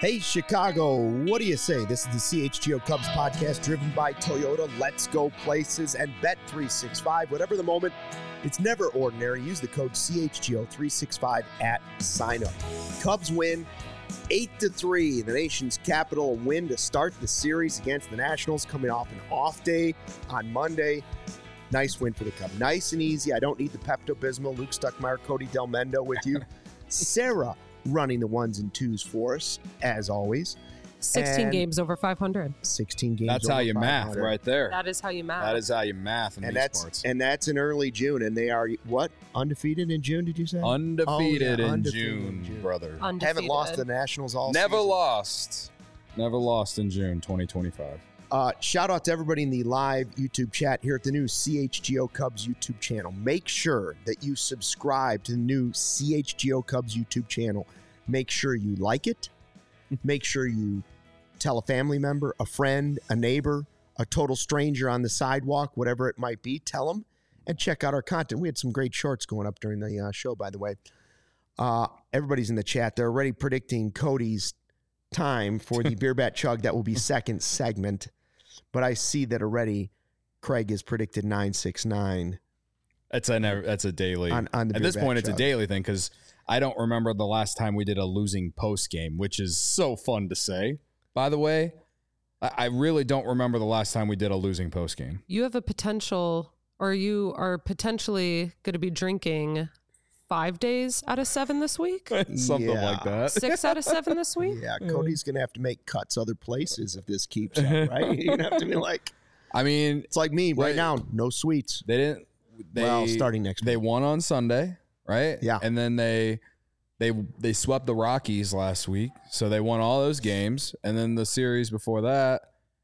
Hey, Chicago, what do you say? This is the CHGO Cubs podcast driven by Toyota. Let's go places and Bet365. Whatever the moment, it's never ordinary. Use the code CHGO365 at sign-up. Cubs win 8-3, the nation's capital, win to start the series against the Nationals, coming off an off day on Monday. Nice win for the Cubs. Nice and easy. I don't need the Pepto-Bismol. Luke Stuckmeyer, Cody Del Mendo with you. Sarah running the ones and twos for us, as always. 16 games over 500. 16 games That's over how you 500. math right there. That is how you math. That is how you math in these sports. And that's in early June, and they are, what, undefeated in June, did you say? Undefeated in undefeated June, brother. Undefeated. Haven't lost to the Nationals all Never season. lost. Never lost in June 2025. Shout out to everybody in the live YouTube chat here at the new CHGO Cubs YouTube channel. Make sure that you subscribe to the new CHGO Cubs YouTube channel. Make sure you like it. Make sure you tell a family member, a friend, a neighbor, a total stranger on the sidewalk, whatever it might be. Tell them and check out our content. We had some great shorts going up during the show, by the way. Everybody's in the chat. They're already predicting Cody's time for the Beer Bat Chug. That will be second segment. But I see that already Craig has predicted 969. That's a daily. On the At this Beer point, Bat it's a Chug. daily thing because I don't remember the last time we did a losing post game, which is so fun to say. By the way, I really don't remember the last time we did a losing post game. You have a potential, or you are potentially going to be drinking 5 days out of 7 this week? Something like that. 6 out of 7 this week? Yeah, Cody's going to have to make cuts other places if this keeps up, right? You're going to have to be like, I mean, it's like me right now, no sweets. they didn't. Well, starting next They week. won on Sunday, right? Yeah. And then they swept the Rockies last week, so they won all those games. And then the series before that,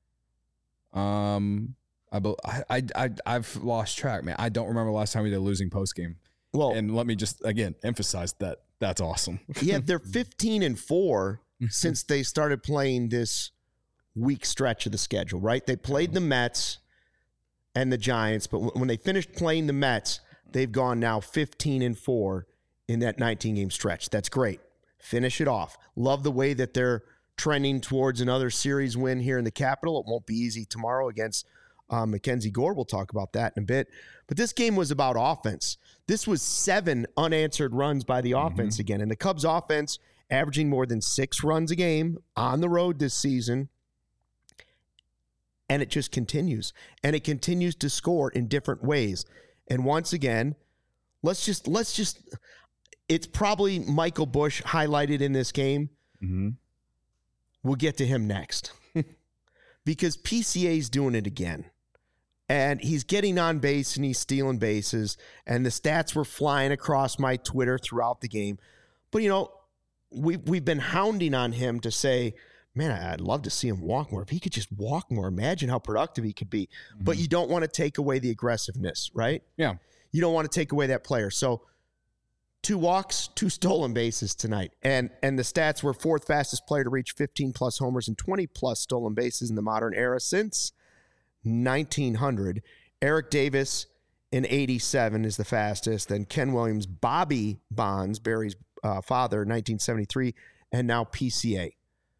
I've lost track, man. I don't remember the last time we did a losing post game. Well, And let me just again emphasize that that's awesome. yeah, they're 15-4 since they started playing this week stretch of the schedule, right? They played the Mets and the Giants, but when they finished playing the Mets, they've gone now 15-4 in that 19-game stretch. That's great. Finish it off. Love the way that they're trending towards another series win here in the Capitol. It won't be easy tomorrow against Mackenzie Gore. We'll talk about that in a bit. But this game was about offense. This was 7 unanswered runs by the offense again. And the Cubs offense averaging more than 6 runs a game on the road this season. And it just continues. And it continues to score in different ways. And once again, let's just it's probably Michael Busch highlighted in this game. Mm-hmm. We'll get to him next. Because PCA's doing it again. And he's getting on base and he's stealing bases. And the stats were flying across my Twitter throughout the game. But, you know, we've been hounding on him to say, man, I'd love to see him walk more. If he could just walk more, imagine how productive he could be. Mm-hmm. But you don't want to take away the aggressiveness, right? Yeah. You don't want to take away that player. So 2 walks, 2 stolen bases tonight. And the stats were 4th fastest player to reach 15-plus homers and 20-plus stolen bases in the modern era since 1900. Eric Davis in 87 is the fastest. Then Ken Williams, Bobby Bonds, Barry's father, 1973, and now PCA.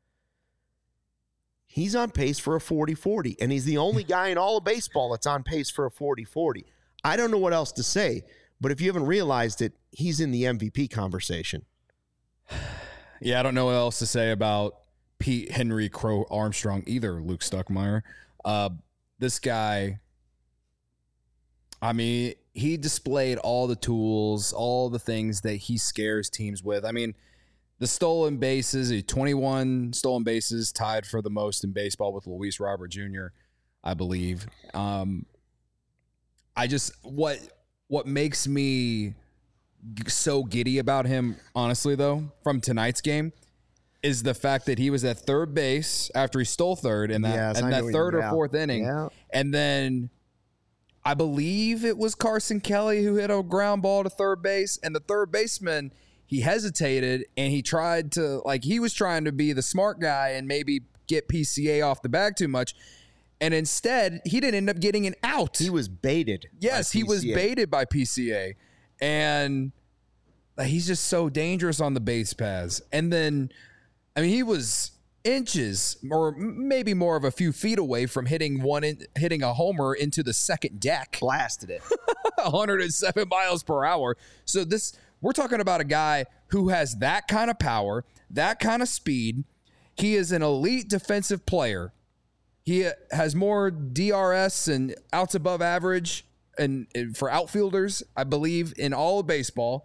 He's on pace for a 40-40, and he's the only guy in all of baseball that's on pace for a 40-40. I don't know what else to say, but if you haven't realized it, he's in the MVP conversation. Yeah, I don't know what else to say about Pete Henry Crow Armstrong either, Luke Stuckmeyer. This guy, I mean, he displayed all the tools, all the things that he scares teams with. I mean, the stolen bases, 21 stolen bases, tied for the most in baseball with Luis Robert Jr., I believe. What makes me so giddy about him, honestly, though, from tonight's game, is the fact that he was at third base after he stole third in that third or fourth inning. Yeah. And then I believe it was Carson Kelly who hit a ground ball to third base, and the third baseman, he hesitated and he tried to, he was trying to be the smart guy and maybe get PCA off the bag too much. And instead, he didn't end up getting an out. He was baited. Yes, he was baited by PCA. And he's just so dangerous on the base paths. And then I mean, he was inches or maybe more of a few feet away from hitting a homer into the second deck. Blasted it. 107 miles per hour. So we're talking about a guy who has that kind of power, that kind of speed. He is an elite defensive player. He has more DRS and outs above average and for outfielders, I believe, in all of baseball.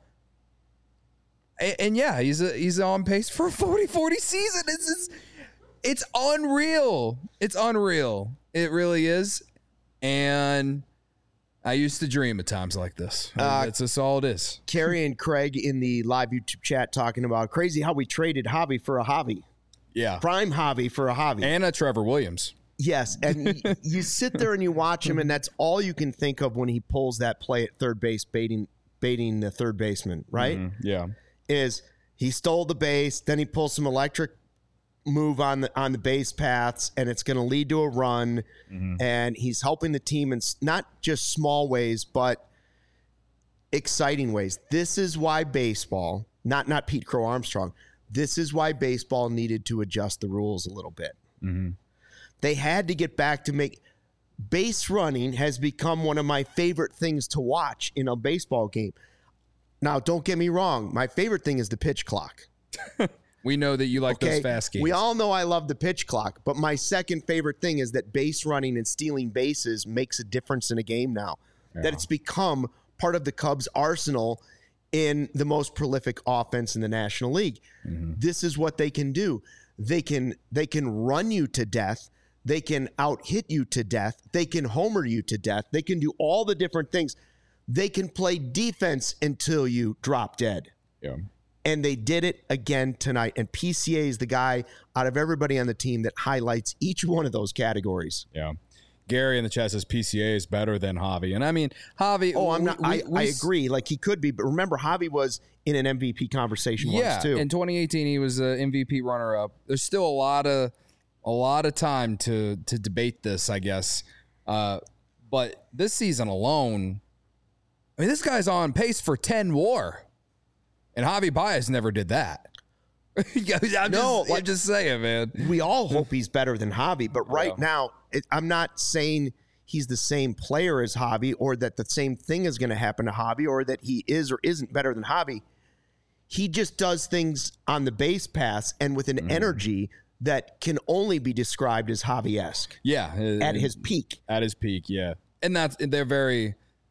And yeah, he's on pace for a 40-40 season. It's unreal. It's unreal. It really is. And I used to dream at times like this. That's just all it is. Carrie and Craig in the live YouTube chat talking about crazy how we traded Javi for a Javi. Yeah. Prime Javi for a Javi. And a Trevor Williams. Yes, and you sit there and you watch him, and that's all you can think of when he pulls that play at third base, baiting the third baseman, right? Mm-hmm. Yeah. Is he stole the base, then he pulls some electric move on the base paths, and it's going to lead to a run, and he's helping the team in not just small ways, but exciting ways. This is why baseball, not Pete Crow Armstrong, this is why baseball needed to adjust the rules a little bit. Mm-hmm. They had to get back to make base running has become one of my favorite things to watch in a baseball game. Now, don't get me wrong. My favorite thing is the pitch clock. We know that you like those fast games. We all know I love the pitch clock, but my second favorite thing is that base running and stealing bases makes a difference in a game now. Yeah. That it's become part of the Cubs' arsenal in the most prolific offense in the National League. Mm-hmm. This is what they can do. They can run you to death. They can out-hit you to death. They can homer you to death. They can do all the different things. They can play defense until you drop dead. Yeah. And they did it again tonight. And PCA is the guy out of everybody on the team that highlights each one of those categories. Yeah. Gary in the chat says PCA is better than Javi. And I mean, Javi. Oh, I'm not. I agree. Like he could be. But remember, Javi was in an MVP conversation once too. In 2018, he was an MVP runner-up. There's still a lot of time to debate this, I guess. But this season alone, I mean, this guy's on pace for 10 WAR. And Javi Baez never did that. I'm just saying, man. We all hope he's better than Javi, but right now, I'm not saying he's the same player as Javi or that the same thing is going to happen to Javi or that he is or isn't better than Javi. He just does things on the base pass and with an energy that can only be described as Javi-esque. Yeah. At his peak. At his peak, yeah. And they're very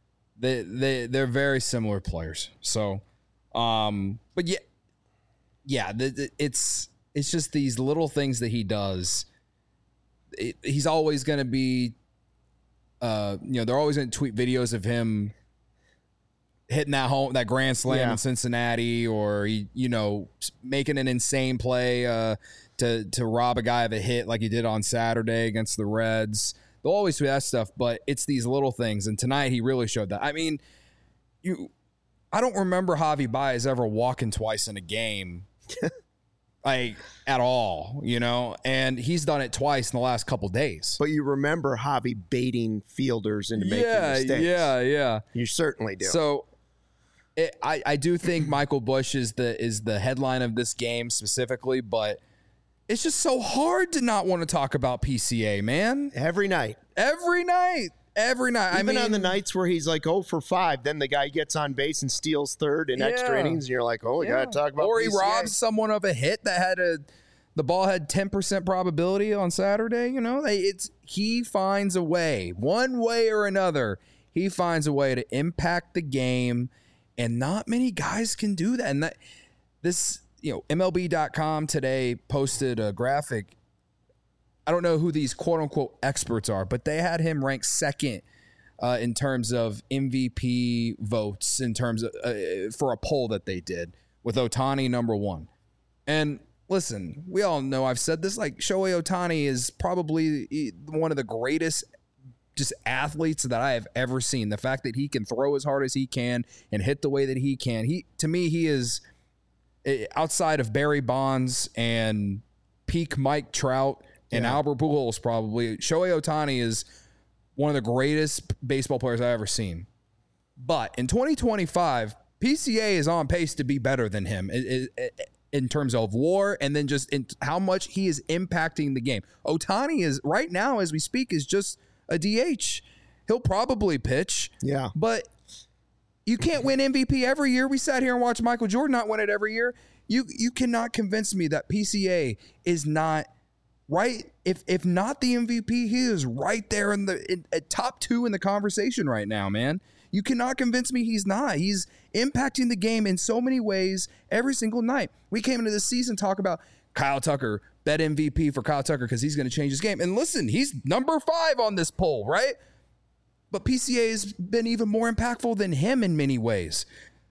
similar players. So, but yeah, it's just these little things that he does. He's always going to be, they're always going to tweet videos of him hitting that grand slam in Cincinnati, or making an insane play to rob a guy of a hit like he did on Saturday against the Reds. They'll always do that stuff, but it's these little things. And tonight he really showed that. I mean, I don't remember Javi Baez ever walking twice in a game, like at all, and he's done it twice in the last couple days. But you remember Javi baiting fielders into making mistakes. Yeah. You certainly do. So I do think Michael Busch is the headline of this game specifically, but it's just so hard to not want to talk about PCA, man. Every night. Even on the nights where he's like 0 for 5, then the guy gets on base and steals third in extra innings, and you're like, oh, we got to talk about Or PCA. he robs someone of a hit that had the ball had 10% probability on Saturday. He finds a way, one way or another. He finds a way to impact the game, and not many guys can do that. And MLB.com today posted a graphic. I don't know who these quote-unquote experts are, but they had him ranked second in terms of MVP votes, in terms of for a poll that they did, with Ohtani number 1. And listen, we all know, I've said this, like Shohei Ohtani is probably one of the greatest just athletes that I have ever seen. The fact that he can throw as hard as he can and hit the way that he can, to me, he is, outside of Barry Bonds and peak Mike Trout and Albert Pujols, probably, Shohei Ohtani is one of the greatest baseball players I've ever seen. But in 2025, PCA is on pace to be better than him. in terms of WAR and then just in how much he is impacting the game. Ohtani is right now, as we speak, is just a DH. He'll probably pitch. Yeah. But you can't win MVP every year. We sat here and watched Michael Jordan not win it every year. You cannot convince me that PCA is not right. If not the MVP, he is right there in top 2 in the conversation right now, man. You cannot convince me he's not. He's impacting the game in so many ways every single night. We came into this season talk about Kyle Tucker, bet MVP for Kyle Tucker because he's going to change his game. And listen, he's number 5 on this poll, right? But PCA has been even more impactful than him in many ways.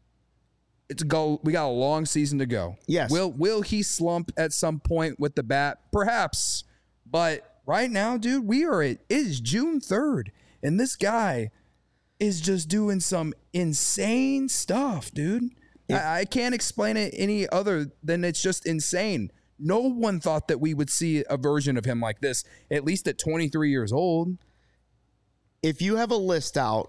We got a long season to go. Yes. Will he slump at some point with the bat? Perhaps. But right now, dude, it is June 3rd, and this guy is just doing some insane stuff, dude. I can't explain it any other than it's just insane. No one thought that we would see a version of him like this, at least at 23 years old. If you have a list out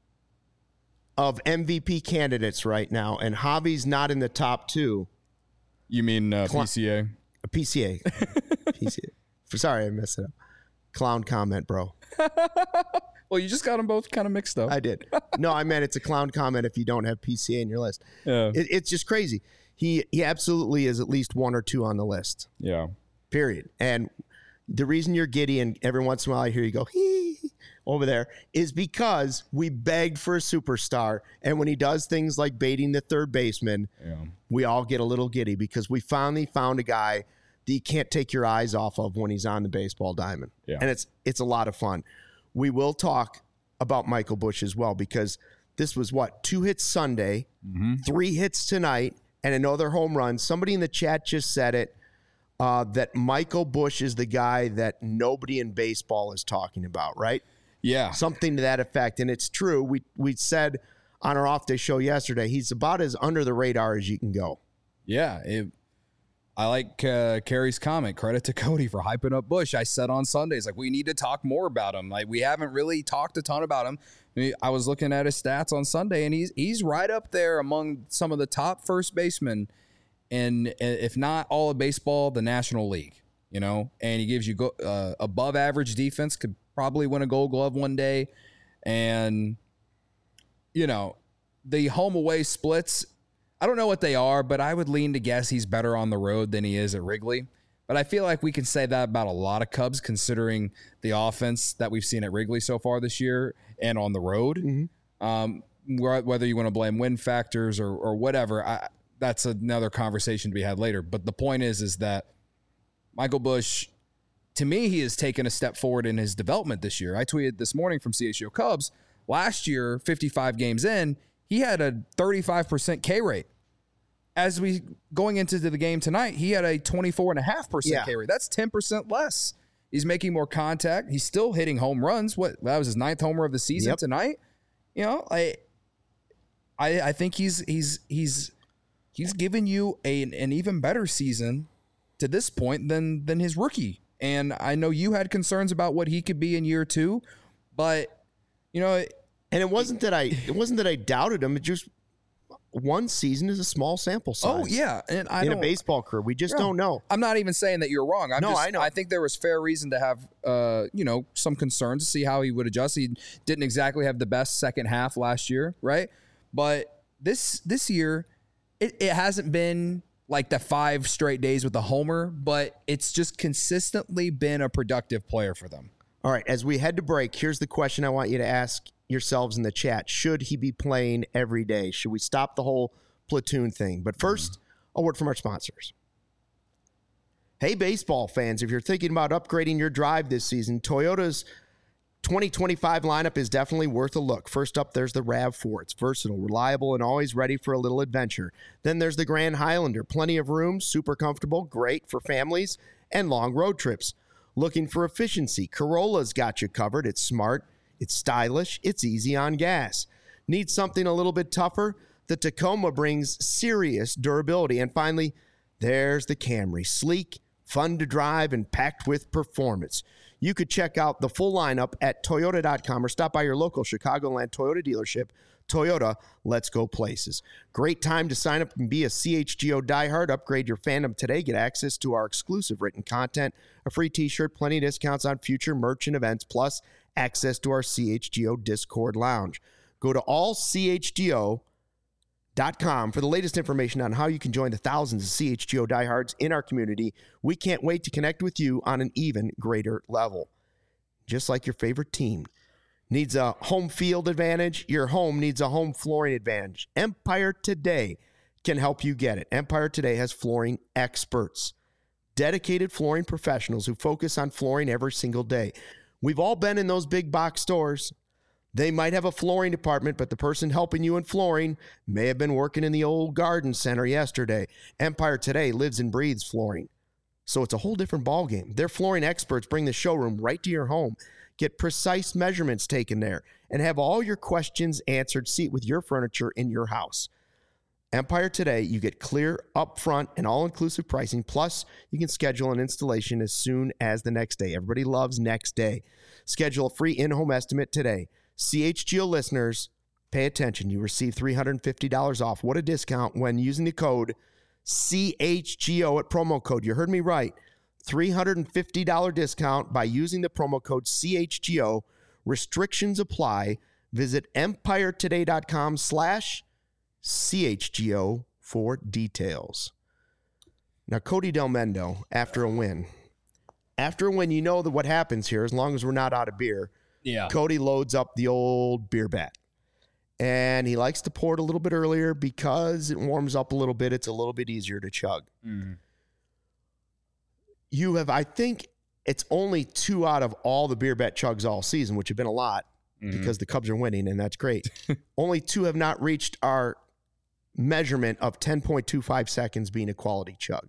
of MVP candidates right now and Javi's not in the top 2. You mean PCA? PCA. PCA. Sorry, I messed it up. Clown comment, bro. Well, you just got them both kind of mixed up. I did. No, I meant it's a clown comment if you don't have PCA in your list. Yeah. It's just crazy. He absolutely is at least 1 or 2 on the list. Yeah. Period. And the reason you're giddy and every once in a while I hear you go, hee, over there, is because we begged for a superstar. And when he does things like baiting the third baseman, we all get a little giddy because we finally found a guy that you can't take your eyes off of when he's on the baseball diamond. Yeah. And it's a lot of fun. We will talk about Michael Busch as well because this was 2 hits Sunday, 3 hits tonight, and another home run. Somebody in the chat just said it, that Michael Busch is the guy that nobody in baseball is talking about, right? Yeah. Something to that effect. And it's true. We said on our off-day show yesterday, he's about as under the radar as you can go. Yeah. I like Carrie's comment. Credit to Cody for hyping up Busch. I said on Sundays, we need to talk more about him. We haven't really talked a ton about him. I was looking at his stats on Sunday, and he's right up there among some of the top first basemen, and if not all of baseball, the National League. And he gives you above average defense, could probably win a Gold Glove one day. And, the home away splits, I don't know what they are, but I would lean to guess he's better on the road than he is at Wrigley. But I feel like we can say that about a lot of Cubs, considering the offense that we've seen at Wrigley so far this year and on the road. Mm-hmm. Whether you want to blame win factors or whatever, that's another conversation to be had later. But the point is that Michael Busch, to me, he has taken a step forward in his development this year. I tweeted this morning from CHGO Cubs. Last year, 55 games in, he had a 35% K rate. As we going into the game tonight, he had a 24.5% K rate. That's 10% less. He's making more contact. He's still hitting home runs. That was his 9th homer of the season tonight. I think he's given you an even better season to this point than his rookie. And I know you had concerns about what he could be in year 2, but and it wasn't that I doubted him. It just one season is a small sample size. Oh yeah, and in a baseball career, we just don't know. I'm not even saying that you're wrong. I know. I think there was fair reason to have some concerns to see how he would adjust. He didn't exactly have the best second half last year, right? But this year, it hasn't been like the 5 straight days with the homer, but it's just consistently been a productive player for them. All right, as we head to break, here's the question I want you to ask yourselves in the chat. Should he be playing every day? Should we stop the whole platoon thing? But first, a word from our sponsors. Hey, baseball fans, if you're thinking about upgrading your drive this season, Toyota's 2025 lineup is definitely worth a look. First up, there's the RAV4. It's versatile, reliable, and always ready for a little adventure. Then there's the Grand Highlander. Plenty of room, super comfortable, great for families and long road trips. Looking for efficiency? Corolla's got you covered. It's smart, it's stylish, it's easy on gas. Need something a little bit tougher? The Tacoma brings serious durability. And finally, there's the Camry. Sleek, fun to drive, and packed with performance. You could check out the full lineup at Toyota.com or stop by your local Chicagoland Toyota dealership Toyota, let's go places. Great time to sign up and be a CHGO diehard. Upgrade your fandom today. Get access to our exclusive written content, a free t-shirt, plenty of discounts on future merch and events, plus access to our CHGO Discord lounge. Go to allchgo.com for the latest information on how you can join the thousands of CHGO diehards in our community. We can't wait to connect with you on an even greater level. Just like your favorite team needs a home field advantage, your home needs a home flooring advantage. Empire Today can help you get it. Empire Today has flooring experts, dedicated flooring professionals who focus on flooring every single day. We've all been in those big box stores. They might have a flooring department, but the person helping you in flooring may have been working in the old garden center yesterday. Empire Today lives and breathes flooring, so it's a whole different ballgame. Their flooring experts bring the showroom right to your home. Get precise measurements taken there and have all your questions answered. Seat with your furniture in your house. Empire Today, you get clear, upfront, and all-inclusive pricing. Plus, you can schedule an installation as soon as the next day. Everybody loves next day. Schedule a free in-home estimate today. CHGO listeners, pay attention. You receive $350 off. What a discount when using the code CHGO at promo code. You heard me right. $350 discount by using the promo code CHGO. Restrictions apply. Visit empiretoday.com/CHGO for details. Now, Cody Delmendo, after a win, you know that what happens here, as long as we're not out of beer, Cody loads up the old beer bat. And he likes to pour it a little bit earlier because it warms up a little bit. It's a little bit easier to chug. Mm. You have, I think it's only 2 out of all the beer bet chugs all season, which have been a lot because the Cubs are winning, and that's great. Only 2 have not reached our measurement of 10.25 seconds being a quality chug.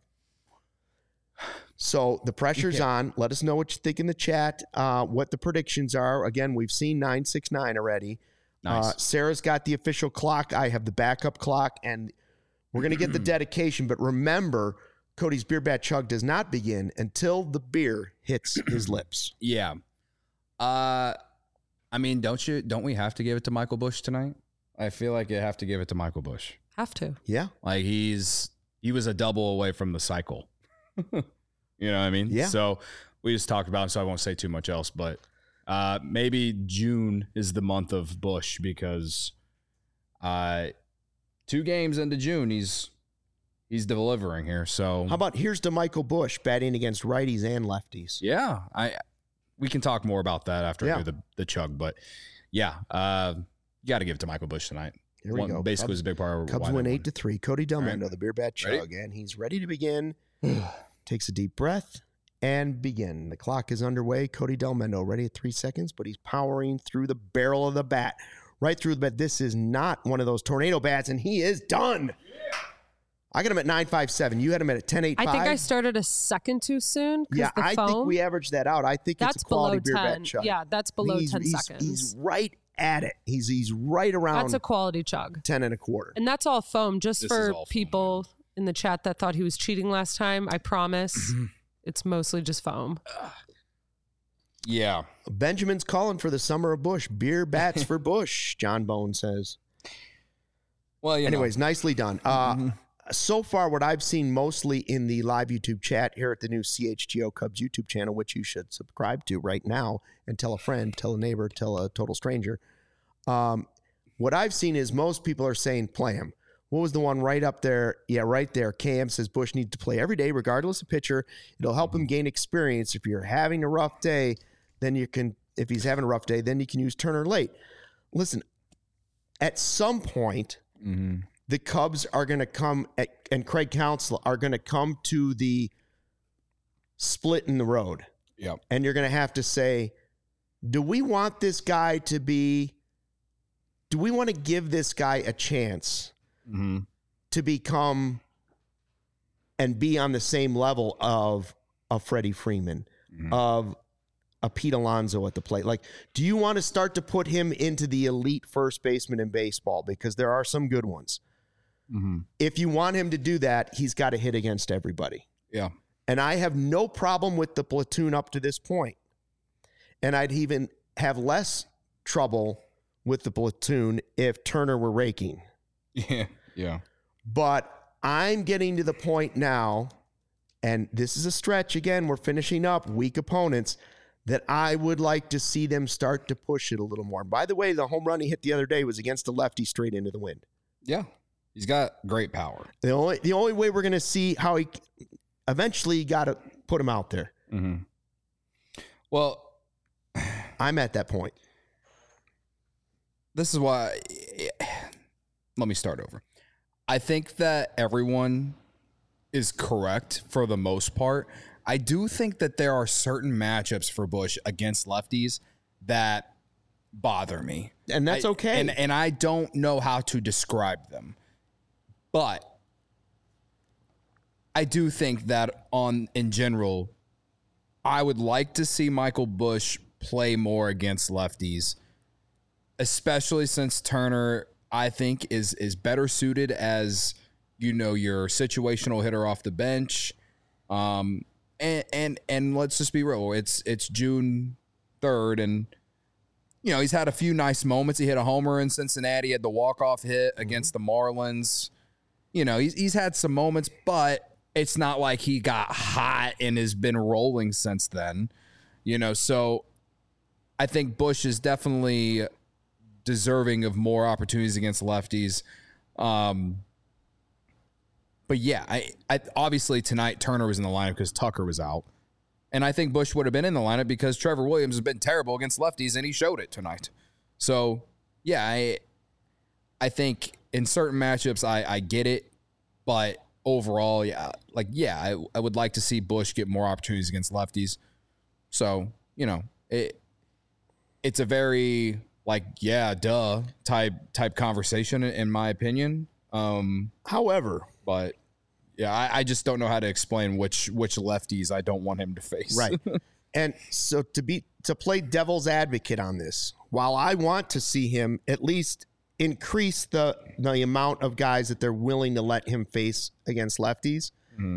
So the pressure's on. Let us know what you think in the chat, what the predictions are. Again, we've seen 969 already. Nice. Sarah's got the official clock. I have the backup clock, and we're going to get the dedication. But remember, Cody's beer bat chug does not begin until the beer hits his lips. Yeah. I mean, don't we have to give it to Michael Busch tonight? I feel like you have to give it to Michael Busch. Have to. Yeah. Like he was a double away from the cycle. You know what I mean? Yeah. So we just talked about it, so I won't say too much else, but maybe June is the month of Busch because 2 games into June, he's delivering here. So how about here's to Michael Busch batting against righties and lefties? Yeah, we can talk more about that after I do the chug, but yeah, you got to give it to Michael Busch tonight. Here we go. Basically, was a big part of Cubs win 8-3. Cody Delmendo, right. The beer bat chug, and he's ready to begin. Takes a deep breath and begin. The clock is underway. Cody Delmendo ready at 3 seconds, but he's powering through the barrel of the bat, right through the bat. This is not one of those tornado bats, and he is done. Yeah. I got him at 9.57. You had him at 10.85. I think I started a second too soon. Yeah, I think we averaged that out. I think that's it's a quality below 10. Beer bat chug. Yeah, that's below 10 seconds. He's right at it. He's right around. That's a quality chug. 10.25. And that's all foam. Just for people in the chat that thought he was cheating last time, I promise it's mostly just foam. Yeah. Benjamin's calling for the summer of Busch. Beer bats for Busch, John Bone says. Well, anyways, nicely done. So far, what I've seen mostly in the live YouTube chat here at the new CHGO Cubs YouTube channel, which you should subscribe to right now and tell a friend, tell a neighbor, tell a total stranger. What I've seen is most people are saying play him. What was the one right up there? Yeah, right there. KM says Busch needs to play every day, regardless of pitcher. It'll help him gain experience. If you're having a rough day, then you can, if he's having a rough day, then you can use Turner late. Listen, at some point, the Cubs are going to come, and Craig Counsell are going to come to the split in the road. Yep. And you're going to have to say, do we want this guy to be, do we want to give this guy a chance to become and be on the same level of a Freddie Freeman, of a Pete Alonso at the plate? Like, do you want to start to put him into the elite first baseman in baseball? Because there are some good ones. If you want him to do that, he's got to hit against everybody. Yeah. And I have no problem with the platoon up to this point. And I'd even have less trouble with the platoon if Turner were raking. Yeah. But I'm getting to the point now, and this is a stretch again, we're finishing up weak opponents, that I would like to see them start to push it a little more. By the way, the home run he hit the other day was against a lefty straight into the wind. Yeah. He's got great power. The only way we're going to see how he eventually got to put him out there. Mm-hmm. Well, I'm at that point. This is why. Let me start over. I think that everyone is correct for the most part. I do think that there are certain matchups for Busch against lefties that bother me. And that's okay. And I don't know how to describe them. But I do think that in general, I would like to see Michael Busch play more against lefties, especially since Turner, I think, is better suited as, your situational hitter off the bench. And let's just be real. It's June 3rd, and he's had a few nice moments. He hit a homer in Cincinnati, had the walk-off hit against the Marlins. He's had some moments, but it's not like he got hot and has been rolling since then. So I think Busch is definitely deserving of more opportunities against lefties. But yeah, I obviously tonight Turner was in the lineup because Tucker was out. And I think Busch would have been in the lineup because Trevor Williams has been terrible against lefties, and he showed it tonight. So, yeah, I think in certain matchups I get it, but overall, I would like to see Busch get more opportunities against lefties. So, it's a very type conversation in my opinion. However, but yeah, I just don't know how to explain which lefties I don't want him to face. Right. And so to play devil's advocate on this, while I want to see him at least increase the amount of guys that they're willing to let him face against lefties,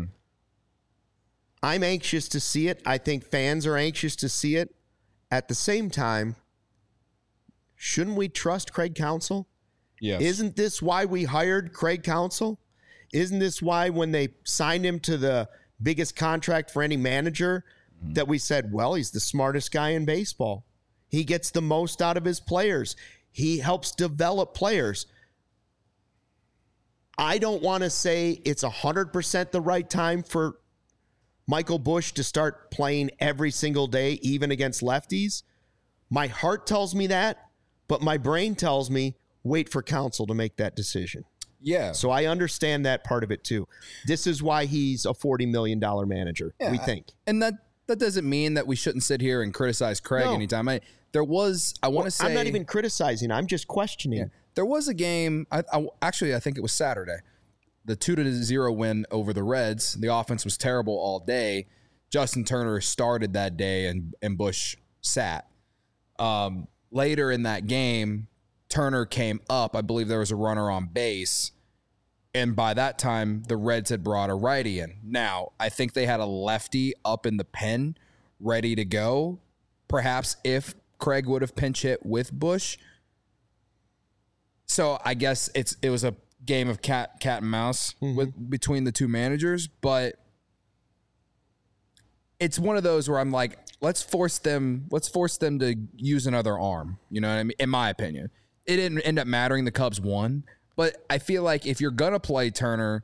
I'm anxious to see it. I think fans are anxious to see it. At the same time, shouldn't we trust Craig Counsell? Yes. Isn't this why we hired Craig Counsell? Isn't this why when they signed him to the biggest contract for any manager that we said, well, he's the smartest guy in baseball. He gets the most out of his players. He helps develop players. I don't want to say it's 100% the right time for Michael Busch to start playing every single day, even against lefties. My heart tells me that, but my brain tells me wait for Counsell to make that decision. Yeah. So I understand that part of it too. This is why he's a $40 million manager, we think. And that doesn't mean that we shouldn't sit here and criticize Craig anytime. I want to say, I'm not even criticizing. I'm just questioning. Yeah, there was a game. I think it was Saturday. The 2-0 win over the Reds. The offense was terrible all day. Justin Turner started that day, and Busch sat. Later in that game, Turner came up. I believe there was a runner on base. And by that time, the Reds had brought a righty in. Now, I think they had a lefty up in the pen ready to go. Perhaps if Craig would have pinch hit with Busch. So I guess it was a game of cat and mouse between the two managers. But it's one of those where I'm like, let's force them to use another arm. You know what I mean? In my opinion. It didn't end up mattering. The Cubs won. But I feel like if you're going to play Turner,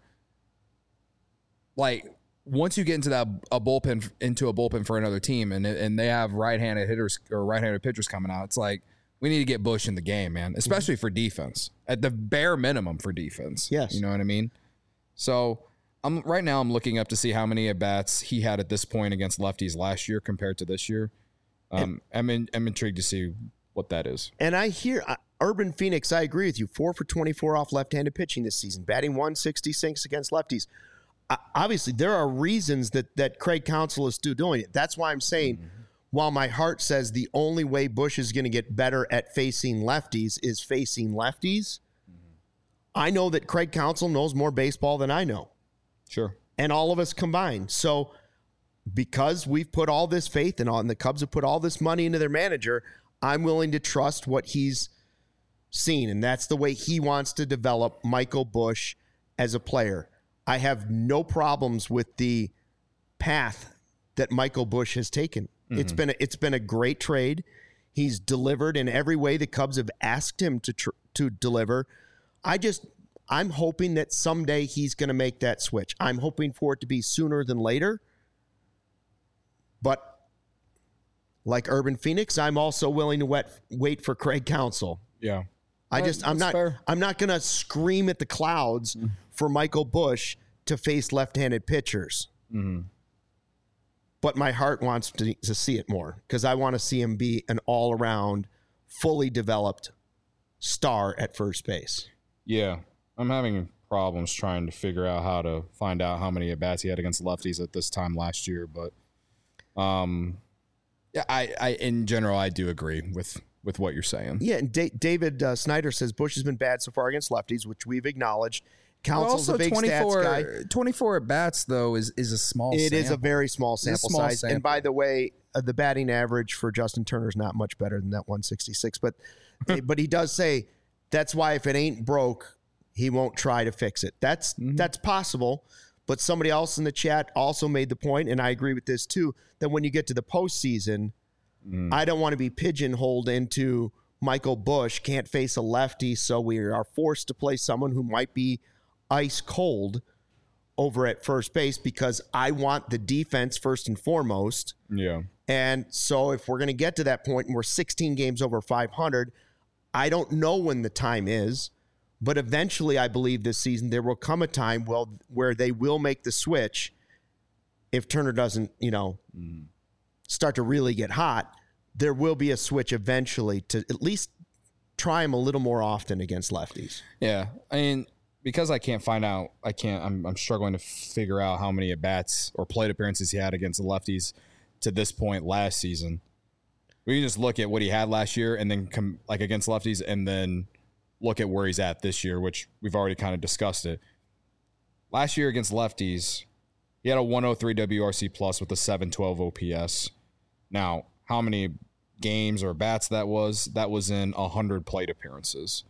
like once you get into a bullpen for another team and they have right-handed hitters or right-handed pitchers coming out, it's like we need to get Busch in the game, man, especially for defense. At the bare minimum for defense. Yes. You know what I mean? So right now I'm looking up to see how many at-bats he had at this point against lefties last year compared to this year. I'm intrigued to see what that is. And I hear Urban Phoenix, I agree with you, 4 for 24 off left-handed pitching this season, batting 166 against lefties. Obviously, there are reasons that Craig Counsell is still doing it. That's why I'm saying, while my heart says the only way Busch is going to get better at facing lefties is facing lefties, I know that Craig Counsell knows more baseball than I know. Sure. And all of us combined. So because we've put all this faith in, and the Cubs have put all this money into their manager, I'm willing to trust what he's seen, and that's the way he wants to develop Michael Busch as a player. I have no problems with the path that Michael Busch has taken. Mm-hmm. It's been a great trade. He's delivered in every way the Cubs have asked him to deliver. I'm hoping that someday he's going to make that switch. I'm hoping for it to be sooner than later. But like Urban Phoenix, I'm also willing to wait for Craig Counsell. Yeah. I'm not going to scream at the clouds for Michael Busch to face left-handed pitchers. Mm-hmm. But my heart wants to see it more because I want to see him be an all-around, fully developed star at first base. Yeah. I'm having problems trying to figure out how to find out how many at-bats he had against lefties at this time last year. But yeah, I in general, I do agree with what you're saying. Yeah, and David Snyder says Busch has been bad so far against lefties, which we've acknowledged. Counsell's a big stats guy. 24 at-bats, though, is a small sample. It is a very small sample size. And by the way, the batting average for Justin Turner is not much better than that 166. But he does say that's why if it ain't broke, he won't try to fix it. That's possible. But somebody else in the chat also made the point, and I agree with this too, that when you get to the postseason, I don't want to be pigeonholed into Michael Busch can't face a lefty, so we are forced to play someone who might be ice cold over at first base because I want the defense first and foremost. Yeah. And so if we're going to get to that point and we're 16 games over 500, I don't know when the time is. But eventually, I believe this season, there will come a time where they will make the switch if Turner doesn't, start to really get hot. There will be a switch eventually to at least try him a little more often against lefties. Yeah. I mean, because I can't find out, I'm struggling to figure out how many at-bats or plate appearances he had against the lefties to this point last season. We can just look at what he had last year and then come like against lefties and then look at where he's at this year, which we've already kind of discussed it. Last year against lefties, he had a 103 WRC plus with a 712 OPS. Now, how many games or bats that was in 100 plate appearances.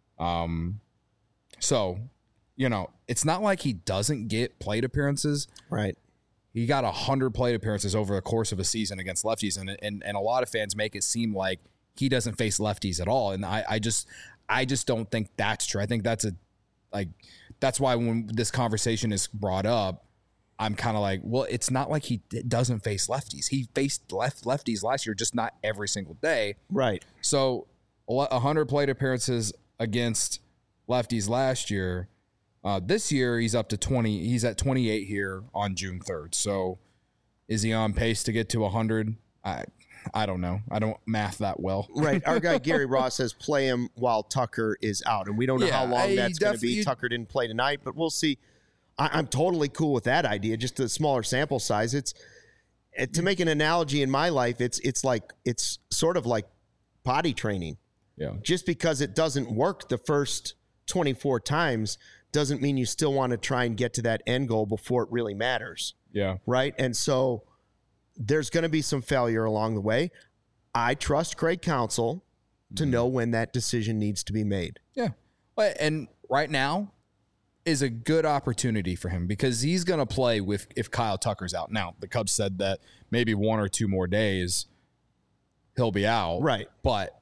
So, it's not like he doesn't get plate appearances. Right. He got 100 plate appearances over the course of a season against lefties, and a lot of fans make it seem like he doesn't face lefties at all. And I just don't think that's true. I think that's why when this conversation is brought up, I'm kind of like, well, it's not like he doesn't face lefties. He faced lefties last year, just not every single day. Right. So 100 plate appearances against lefties last year. This year he's up to 20. He's at 28 here on June 3rd. So is he on pace to get to 100? I don't know. I don't math that well. Right. Our guy Gary Ross says play him while Tucker is out. And we don't know how long that's going to be. Tucker didn't play tonight, but we'll see. I'm totally cool with that idea. Just a smaller sample size. To make an analogy in my life, it's sort of like potty training. Yeah. Just because it doesn't work the first 24 times doesn't mean you still want to try and get to that end goal before it really matters. Yeah. Right. And so there's going to be some failure along the way. I trust Craig Counsell to know when that decision needs to be made. Yeah. And right now is a good opportunity for him because he's going to play if Kyle Tucker's out. Now, the Cubs said that maybe 1 or 2 more days he'll be out. Right. But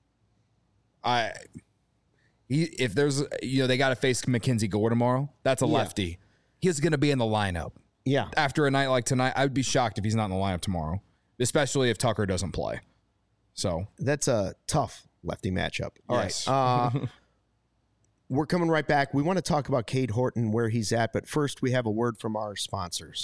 if there's, they got to face Mackenzie Gore tomorrow. That's a lefty. He's going to be in the lineup. Yeah. After a night like tonight, I would be shocked if he's not in the lineup tomorrow, especially if Tucker doesn't play. So that's a tough lefty matchup. All yes. right. We're coming right back. We want to talk about Cade Horton, where he's at, but first we have a word from our sponsors.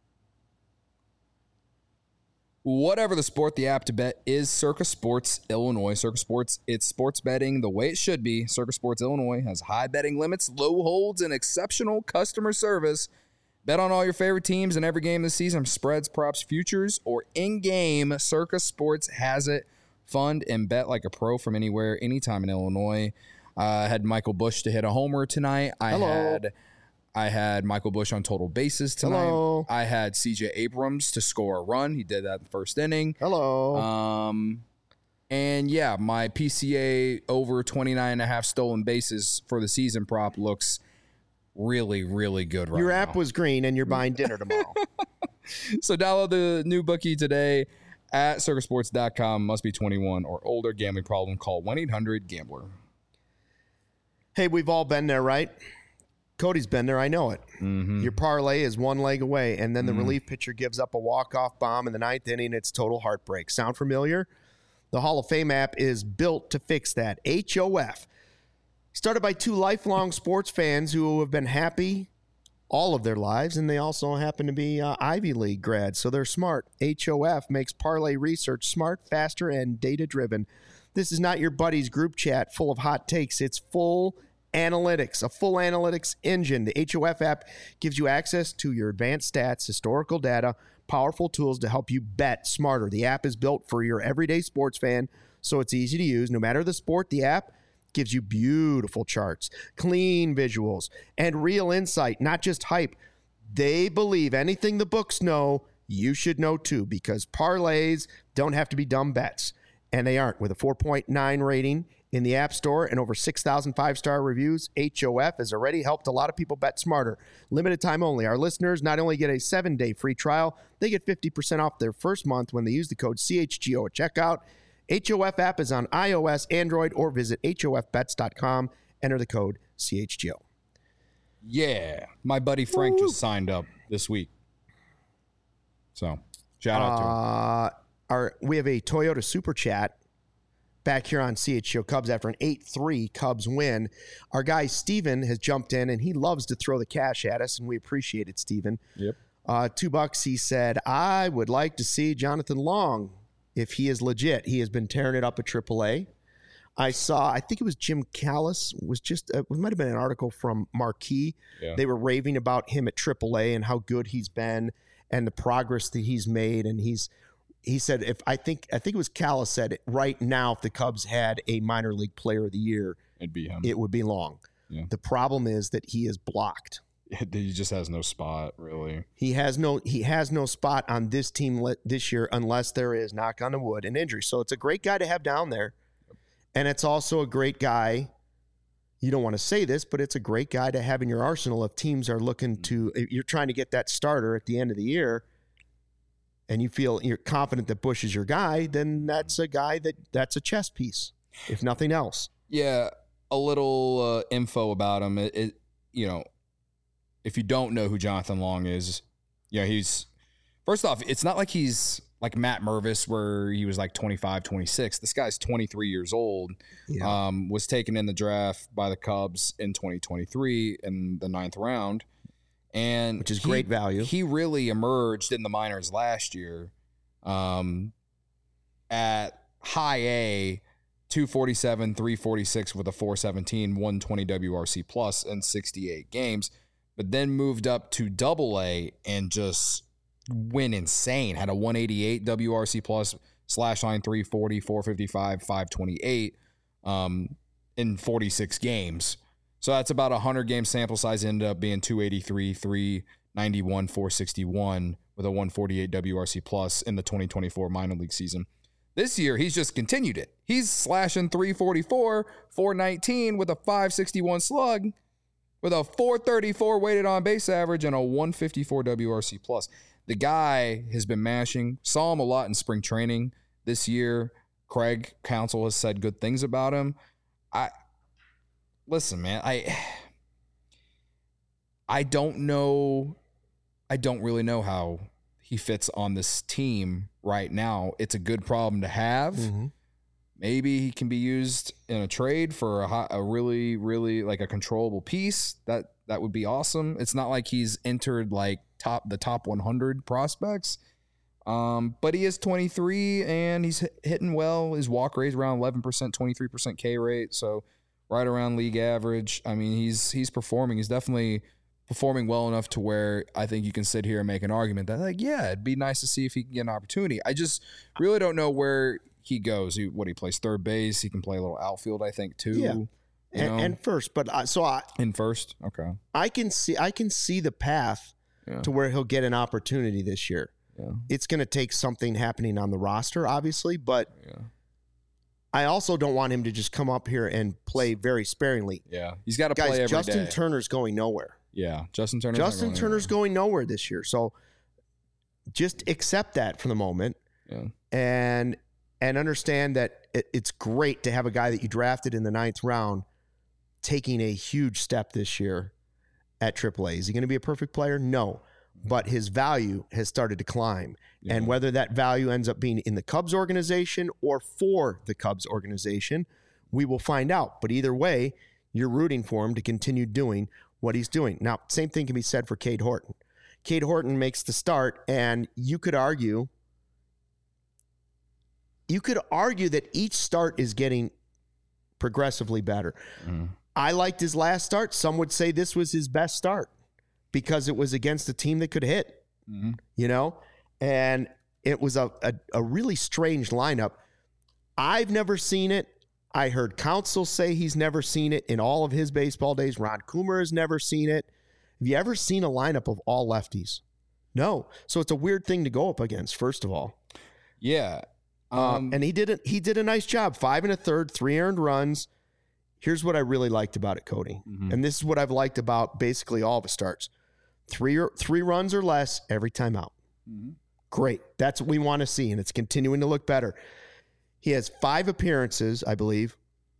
Whatever the sport, the app to bet is Circa Sports Illinois. Circa Sports, it's sports betting the way it should be. Circa Sports Illinois has high betting limits, low holds, and exceptional customer service. Bet on all your favorite teams in every game this season, spreads, props, futures, or in-game. Circa Sports has it. Fund and bet like a pro from anywhere, anytime in Illinois. I had Michael Busch to hit a homer tonight. I had Michael Busch on total bases tonight. Hello. I had C.J. Abrams to score a run. He did that in the first inning. Hello. And yeah, my PCA over 29.5 stolen bases for the season prop looks really, really good right now. Your app was green and you're buying dinner tomorrow. So download the new bookie today at circusports.com. Must be 21 or older. Gambling problem, call 1-800-GAMBLER. Hey, we've all been there, right? Cody's been there. I know it. Mm-hmm. Your parlay is one leg away, and then the relief pitcher gives up a walk-off bomb in the ninth inning. It's total heartbreak. Sound familiar? The Hall of Fame app is built to fix that. HOF. Started by two lifelong sports fans who have been happy all of their lives, and they also happen to be Ivy League grads, so they're smart. HOF makes parlay research smart, faster, and data-driven. This is not your buddy's group chat full of hot takes. It's full analytics, a full analytics engine. The HOF app gives you access to your advanced stats, historical data, powerful tools to help you bet smarter. The app is built for your everyday sports fan, so it's easy to use. No matter the sport, the app gives you beautiful charts, clean visuals, and real insight, not just hype. They believe anything the books know, you should know too, because parlays don't have to be dumb bets. And they aren't. With a 4.9 rating in the App Store and over 6,000 five-star reviews, HOF has already helped a lot of people bet smarter. Limited time only. Our listeners not only get a 7-day free trial, they get 50% off their first month when they use the code CHGO at checkout. HOF app is on iOS, Android, or visit HOFbets.com. Enter the code CHGO. Yeah. My buddy Frank just signed up this week. So, shout out to him. We have a Toyota Super Chat back here on CHGO Cubs after an 8-3 Cubs win. Our guy Steven has jumped in, and he loves to throw the cash at us, and we appreciate it, Steven. Yep. $2, he said, I would like to see Jonathan Long if he is legit. He has been tearing it up at AAA. I think it was Jim Callis, it might have been an article from Marquee. Yeah. They were raving about him at AAA and how good he's been and the progress that he's made, and he said, I think it was Callis said, right now, if the Cubs had a minor league player of the year, It'd be him. It would be Long. Yeah. The problem is that he is blocked. He just has no spot, really. He has no spot on this team this year unless there is, knock on the wood, an injury. So it's a great guy to have down there. And it's also a great guy. You don't want to say this, but it's a great guy to have in your arsenal if teams are looking to, if you're trying to get that starter at the end of the year, and you feel you're confident that Bush is your guy, then that's a guy that's a chess piece, if nothing else. Yeah, a little info about him. If you don't know who Jonathan Long is, he's, first off, it's not like he's like Matt Mervis where he was like 25, 26. This guy's 23 years old, was taken in the draft by the Cubs in 2023 in the 9th round. And which is great value. He really emerged in the minors last year at high A, 247, 346 with a 417, 120 WRC plus in 68 games, but then moved up to double A and just went insane. Had a 188 WRC plus, slash line 340, 455, 528 in 46 games. So that's about a 100-game sample size. Ended up being 283, 391, 461 with a 148 WRC plus in the 2024 minor league season. This year, he's just continued it. He's slashing 344, 419 with a 561 slug, with a 434 weighted on base average and a 154 WRC plus. The guy has been mashing. Saw him a lot in spring training this year. Craig Counsell has said good things about him. Listen, man, I don't know. I don't really know how he fits on this team right now. It's a good problem to have. Mm-hmm. Maybe he can be used in a trade for a really, really like a controllable piece. That would be awesome. It's not like he's entered like the top 100 prospects. But he is 23 and he's hitting well. His walk rate is around 11%, 23% K rate. So right around league average. I mean, he's performing. He's definitely performing well enough to where I think you can sit here and make an argument that, like, yeah, it'd be nice to see if he can get an opportunity. I just really don't know where he goes. He plays third base. He can play a little outfield, I think, too. Yeah, and first. But in first, okay. I can see the path to where he'll get an opportunity this year. Yeah. It's going to take something happening on the roster, obviously, but I also don't want him to just come up here and play very sparingly. Yeah, he's got to play every day. Justin Turner's going nowhere. Yeah, Justin Turner's going nowhere this year. So just accept that for the moment, and understand that it's great to have a guy that you drafted in the 9th round taking a huge step this year at AAA. Is he going to be a perfect player? No, but his value has started to climb. Yeah. And whether that value ends up being in the Cubs organization or for the Cubs organization, we will find out. But either way, you're rooting for him to continue doing what he's doing. Now, same thing can be said for Cade Horton. Cade Horton makes the start, and you could argue that each start is getting progressively better. Mm. I liked his last start. Some would say this was his best start because it was against a team that could hit, and it was a really strange lineup. I've never seen it. I heard Counsell say he's never seen it in all of his baseball days. Ron Coomer has never seen it. Have you ever seen a lineup of all lefties? No. So it's a weird thing to go up against, first of all. Yeah. And he did a nice job. 5 1/3, 3 earned runs. Here's what I really liked about it, Cody. Mm-hmm. And this is what I've liked about basically all of his starts. 3 runs or less every time out. Mm-hmm. Great. That's what we want to see, and it's continuing to look better. He has 5 appearances, I believe,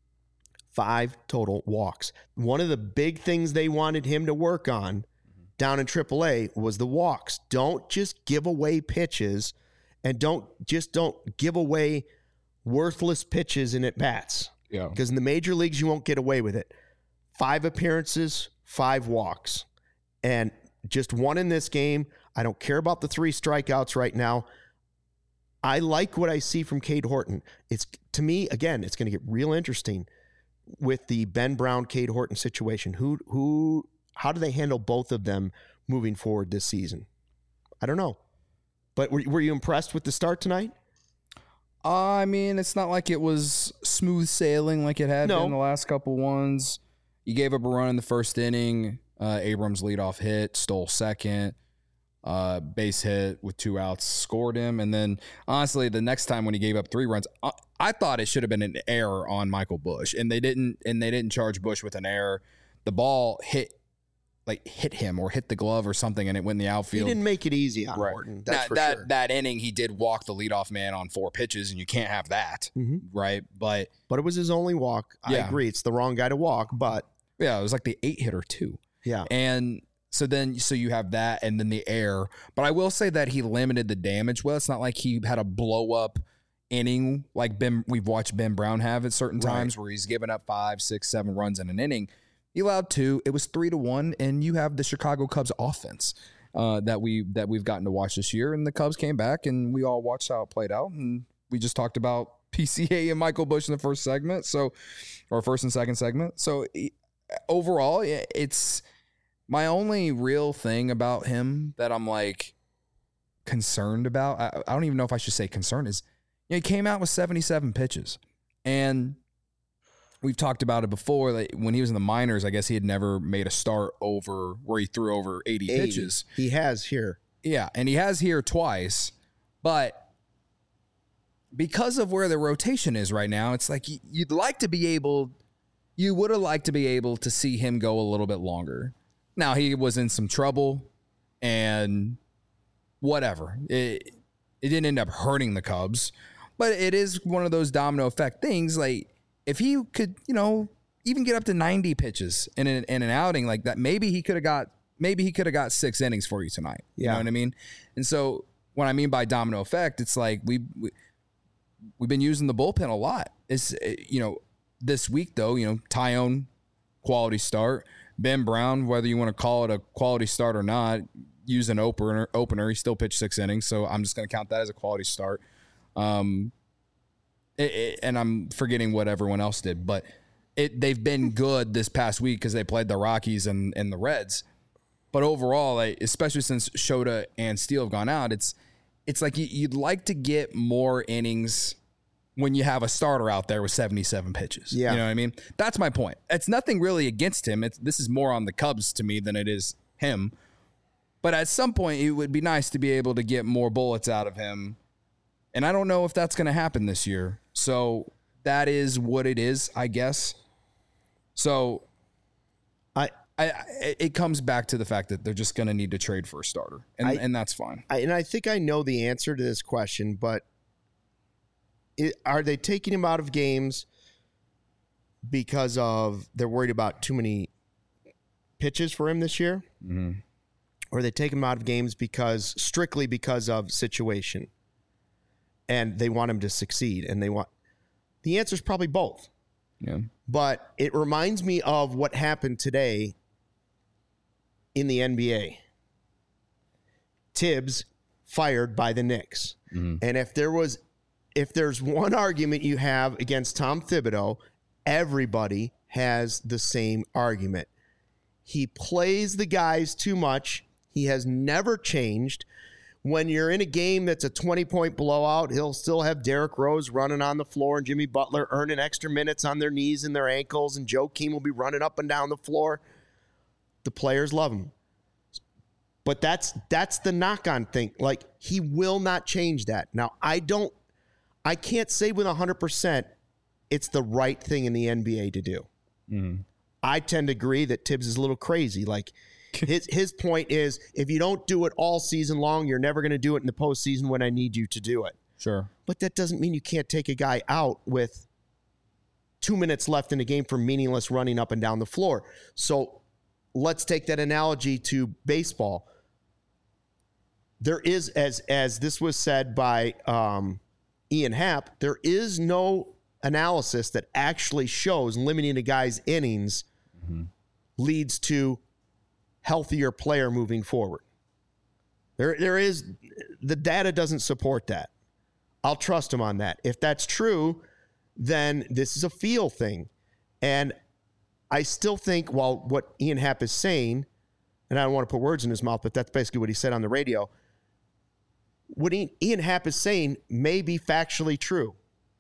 5 total walks. One of the big things they wanted him to work on down in AAA was the walks. Don't just give away pitches, and don't give away worthless pitches in at-bats. Yeah. Because in the major leagues, you won't get away with it. 5 appearances, 5 walks. And just 1 in this game. I don't care about the 3 strikeouts right now. I like what I see from Cade Horton. To me, again, it's going to get real interesting with the Ben Brown, Cade Horton situation. How do they handle both of them moving forward this season? I don't know. But were you impressed with the start tonight? I mean, it's not like it was smooth sailing like it had been the last couple ones. You gave up a run in the first inning. Abrams leadoff hit, stole second. Base hit with 2 outs, scored him. And then, honestly, the next time when he gave up 3 runs, I thought it should have been an error on Michael Busch. And they didn't charge Busch with an error. The ball hit him or hit the glove or something, and it went in the outfield. He didn't make it easy on Horton. That's for sure. That inning, he did walk the leadoff man on 4 pitches, and you can't have that, right? But it was his only walk. I agree. It's the wrong guy to walk, but... Yeah, it was like the 8-hitter, too. Yeah. And so you have that and then the air. But I will say that he limited the damage well. It's not like he had a blow-up inning like we've watched Ben Brown have at certain times where he's given up 5, 6, 7 runs in an inning. He allowed 2. It was 3-1, and you have the Chicago Cubs offense that we've gotten to watch this year. And the Cubs came back, and we all watched how it played out. And we just talked about PCA and Michael Busch in the first segment, or first and second segment. So overall, it's my only real thing about him that I'm like concerned about. I don't even know if I should say concerned is, he came out with 77 pitches, and we've talked about it before. Like when he was in the minors, I guess he had never made a start where he threw over 80 pitches. He has here. Yeah, and he has here twice. But because of where the rotation is right now, it's like you would have liked to be able to see him go a little bit longer. Now, he was in some trouble, and whatever. It didn't end up hurting the Cubs, but it is one of those domino effect things. Like, if he could, even get up to 90 pitches in an outing like that, maybe he could have got 6 innings for you tonight. You know what I mean? And so what I mean by domino effect, it's like we've been using the bullpen a lot. It's this week though, Tyone, quality start. Ben Brown, whether you want to call it a quality start or not, use an opener. He still pitched 6 innings, so I'm just going to count that as a quality start. And I'm forgetting what everyone else did, but they've been good this past week because they played the Rockies and the Reds. But overall, especially since Shota and Steele have gone out, it's like you'd like to get more innings when you have a starter out there with 77 pitches. Yeah. You know what I mean? That's my point. It's nothing really against him. This is more on the Cubs to me than it is him. But at some point, it would be nice to be able to get more bullets out of him. And I don't know if that's going to happen this year. So that is what it is, I guess. So it comes back to the fact that they're just going to need to trade for a starter, and that's fine. I think I know the answer to this question, but are they taking him out of games because they're worried about too many pitches for him this year? Mm-hmm. Or they take him out of games strictly because of situation, and they want him to succeed, and the answer is probably both. Yeah. But it reminds me of what happened today in the NBA. Tibbs fired by the Knicks. Mm-hmm. And if there's one argument you have against Tom Thibodeau, everybody has the same argument. He plays the guys too much. He has never changed. When you're in a game that's a 20-point blowout, he'll still have Derrick Rose running on the floor and Jimmy Butler earning extra minutes on their knees and their ankles, and Joakim will be running up and down the floor. The players love him. But that's the knock-on thing. Like, he will not change that. Now, I can't say with 100% it's the right thing in the NBA to do. Mm-hmm. I tend to agree that Tibbs is a little crazy. Like, his point is, if you don't do it all season long, you're never going to do it in the postseason when I need you to do it. Sure. But that doesn't mean you can't take a guy out with 2 minutes left in the game for meaningless running up and down the floor. So let's take that analogy to baseball. There is, as this was said by Ian Happ, there is no analysis that actually shows limiting a guy's innings leads to healthier player moving forward. There is, the data doesn't support that. I'll trust him on that. If that's true, then this is a feel thing. And I still think, while what Ian Happ is saying, and I don't want to put words in his mouth, but that's basically what he said on the radio, what Ian Happ is saying may be factually true.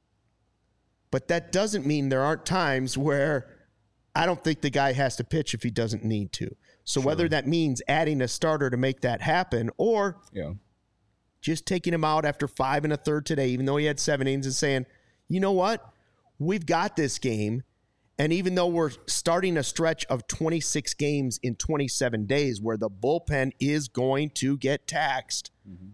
But that doesn't mean there aren't times where I don't think the guy has to pitch if he doesn't need to. So whether that means adding a starter to make that happen, or just taking him out after 5 1/3 today, even though he had 7 innings, and saying, you know what? We've got this game. And even though we're starting a stretch of 26 games in 27 days where the bullpen is going to get taxed,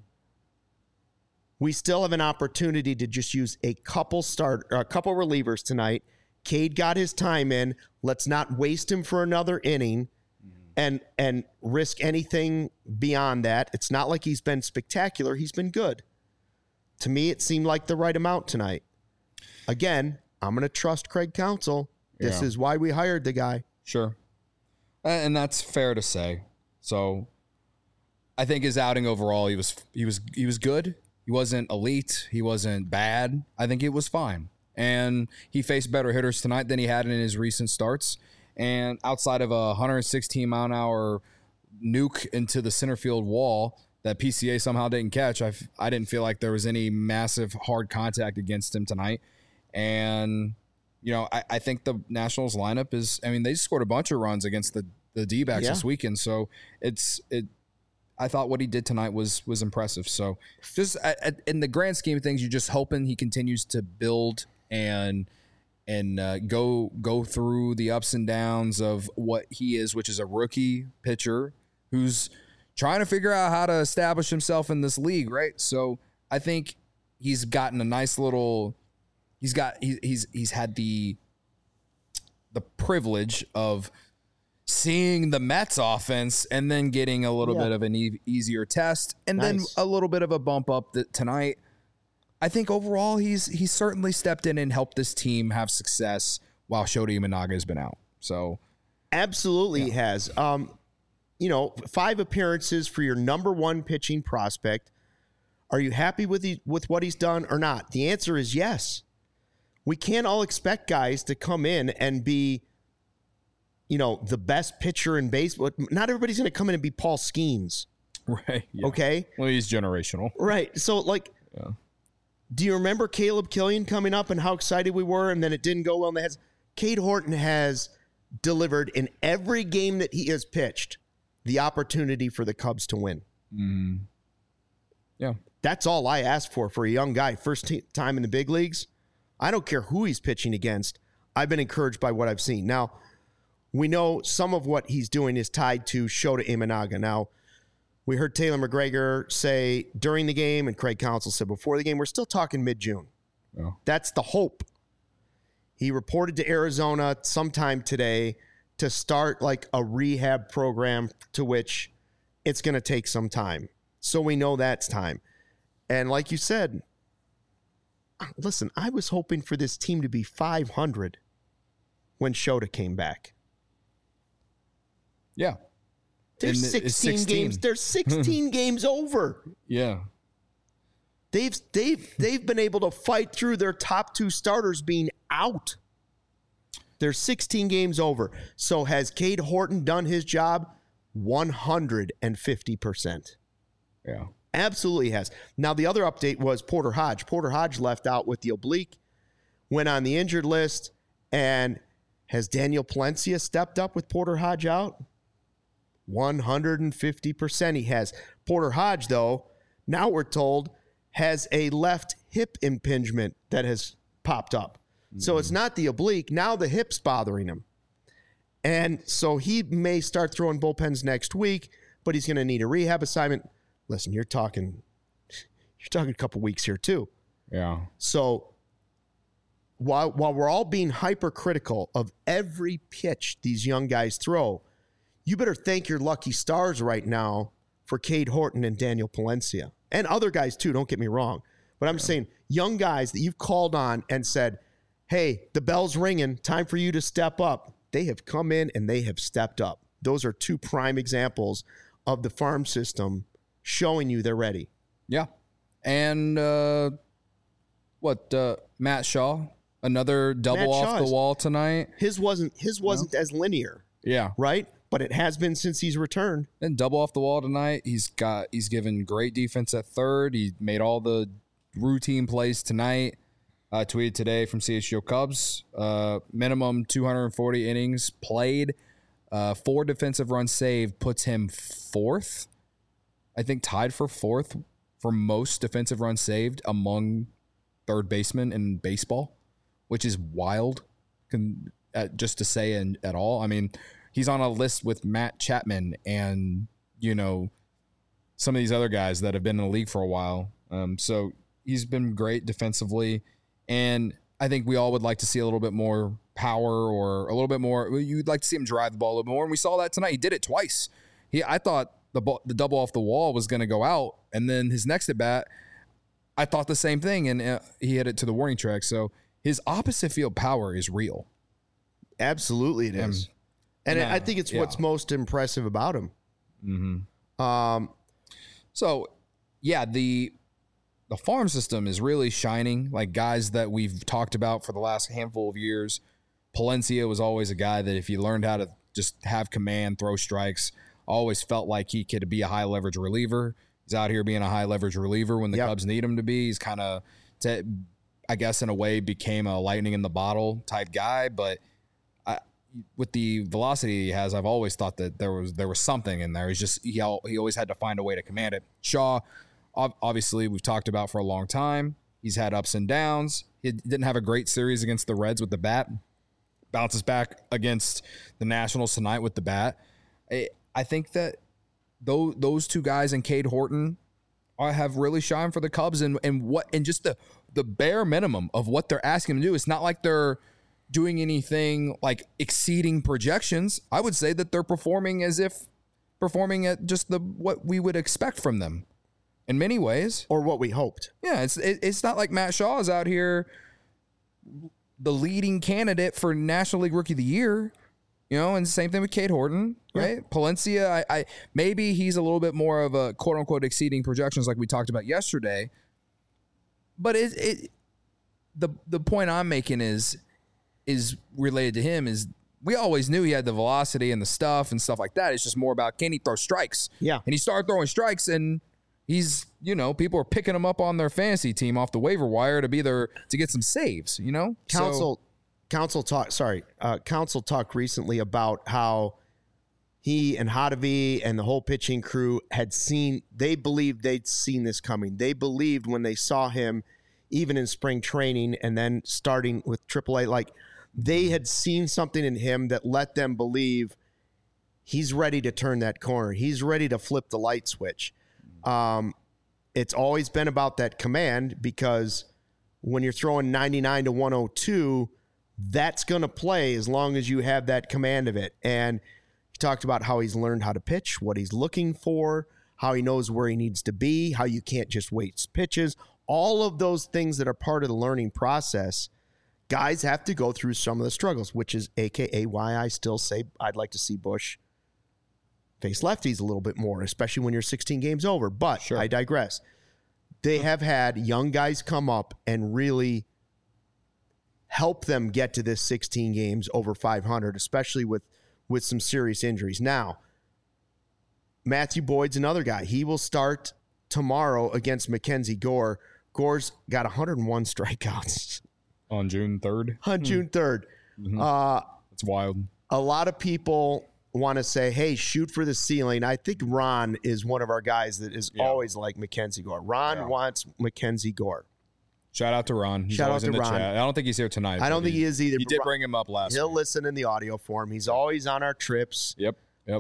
we still have an opportunity to just use a couple relievers tonight. Cade got his time in. Let's not waste him for another inning and risk anything beyond that. It's not like he's been spectacular. He's been good. To me, it seemed like the right amount tonight. Again, I'm going to trust Craig Counsell. This is why we hired the guy. Sure. And that's fair to say. So I think his outing overall, he was good. He wasn't elite. He wasn't bad. I think it was fine. And he faced better hitters tonight than he had in his recent starts. And outside of a 116-mile-an-hour nuke into the center field wall that PCA somehow didn't catch, I didn't feel like there was any massive hard contact against him tonight. And, you know, I think the Nationals lineup is, I mean, they scored a bunch of runs against the D-backs this weekend. So I thought what he did tonight was impressive. So just in the grand scheme of things, you're just hoping he continues to build and go through the ups and downs of what he is, which is a rookie pitcher who's trying to figure out how to establish himself in this league, right? So I think he's gotten a nice little. He's had the privilege of seeing the Mets offense and then getting a little bit of an easier test and then a little bit of a bump up tonight. I think overall he's certainly stepped in and helped this team have success while Shota Imanaga has been out. So absolutely he has. 5 appearances for your number one pitching prospect. Are you happy with what he's done or not? The answer is yes. We can't all expect guys to come in and be, the best pitcher in baseball. Not everybody's going to come in and be Paul Skeens. Right. Yeah. Okay. Well, he's generational. Right. So, do you remember Caleb Killian coming up and how excited we were, and then it didn't go well? And Cade Horton has delivered in every game that he has pitched the opportunity for the Cubs to win. Yeah. That's all I ask for a young guy. First time in the big leagues. I don't care who he's pitching against. I've been encouraged by what I've seen. Now, we know some of what he's doing is tied to Shota Imanaga. Now, we heard Taylor McGregor say during the game, and Craig Counsell said before the game, we're still talking mid-June. Yeah. That's the hope. He reported to Arizona sometime today to start like a rehab program, to which it's going to take some time. So we know that's time. And like you said, listen, I was hoping for this team to be 500 when Shota came back. Yeah. There's 16 games. There's 16 games over. Yeah. They've been able to fight through their top two starters being out. There's 16 games over. So has Cade Horton done his job? 150%. Yeah. Absolutely has. Now, the other update was Porter Hodge. Porter Hodge left out with the oblique, went on the injured list, and has Daniel Palencia stepped up with Porter Hodge out? 150% he has. Porter Hodge, though, now we're told, has a left hip impingement that has popped up. Mm-hmm. So it's not the oblique. Now the hip's bothering him. And so he may start throwing bullpens next week, but he's going to need a rehab assignment. Listen, you're talking a couple weeks here too. Yeah. So while we're all being hypercritical of every pitch these young guys throw, you better thank your lucky stars right now for Cade Horton and Daniel Palencia. And other guys too, don't get me wrong. But I'm saying young guys that you've called on and said, hey, the bell's ringing, time for you to step up. They have come in and they have stepped up. Those are two prime examples of the farm system showing you they're ready. Yeah. And Matt Shaw, another double off the wall tonight. His wasn't as linear. Yeah. Right? But it has been since he's returned. And double off the wall tonight. He's given great defense at third. He made all the routine plays tonight. Tweeted today from CHGO Cubs. Minimum 240 innings played. 4 defensive runs saved puts him fourth. I think tied for fourth for most defensive runs saved among third basemen in baseball, which is wild just to say at all. I mean, he's on a list with Matt Chapman and, some of these other guys that have been in the league for a while. So he's been great defensively. And I think we all would like to see a little bit more power or a little bit more. You'd like to see him drive the ball a little more. And we saw that tonight. He did it twice. I thought the double off the wall was going to go out. And then his next at bat, I thought the same thing. And he hit it to the warning track. So his opposite field power is real. Absolutely it is. And I think it's what's most impressive about him. Mm-hmm. The farm system is really shining. Like guys that we've talked about for the last handful of years. Palencia was always a guy that if you learned how to just have command, throw strikes, always felt like he could be a high leverage reliever. He's out here being a high leverage reliever when the Cubs need him to be. He's kind of, I guess in a way, became a lightning in the bottle type guy. But with the velocity he has, I've always thought that there was something in there. He's just he always had to find a way to command it. Shaw, obviously, we've talked about for a long time. He's had ups and downs. He didn't have a great series against the Reds with the bat. Bounces back against the Nationals tonight with the bat. I think that those two guys and Cade Horton have really shined for the Cubs and just the bare minimum of what they're asking them to do. It's not like they're doing anything like exceeding projections. I would say that they're performing at just what we would expect from them in many ways, or what we hoped. Yeah, it's not like Matt Shaw is out here the leading candidate for National League Rookie of the Year, and the same thing with Cade Horton, right? Yeah. Palencia, I maybe he's a little bit more of a quote unquote exceeding projections like we talked about yesterday. But the point I'm making is related to him is we always knew he had the velocity and the stuff like that. It's just more about, can he throw strikes? Yeah. And he started throwing strikes and he's, people are picking him up on their fantasy team off the waiver wire to get some saves, Counsell talked recently about how he and Hottovy and the whole pitching crew they believed they'd seen this coming. They believed when they saw him even in spring training and then starting with AAA. Like, they had seen something in him that let them believe he's ready to turn that corner. He's ready to flip the light switch. It's always been about that command, because when you're throwing 99 to 102, that's going to play as long as you have that command of it. And he talked about how he's learned how to pitch, what he's looking for, how he knows where he needs to be, how you can't just waste pitches. All of those things that are part of the learning process, guys have to go through some of the struggles, which is AKA why I still say I'd like to see Busch face lefties a little bit more, especially when you're 16 games over. But sure, I digress. They have had young guys come up and really help them get to this 16 games over 500, especially with some serious injuries. Now, Matthew Boyd's another guy. He will start tomorrow against Mackenzie Gore. Gore's got 101 strikeouts. On June 3rd? On June 3rd. Mm-hmm. That's wild. A lot of people want to say, hey, shoot for the ceiling. I think Ron is one of our guys that is always like Mackenzie Gore. Ron wants Mackenzie Gore. Shout out to Ron. He's always in the chat. I don't think he's here tonight. I don't think he is either. He did bring him up last week. He'll listen in the audio form. He's always on our trips. Yep.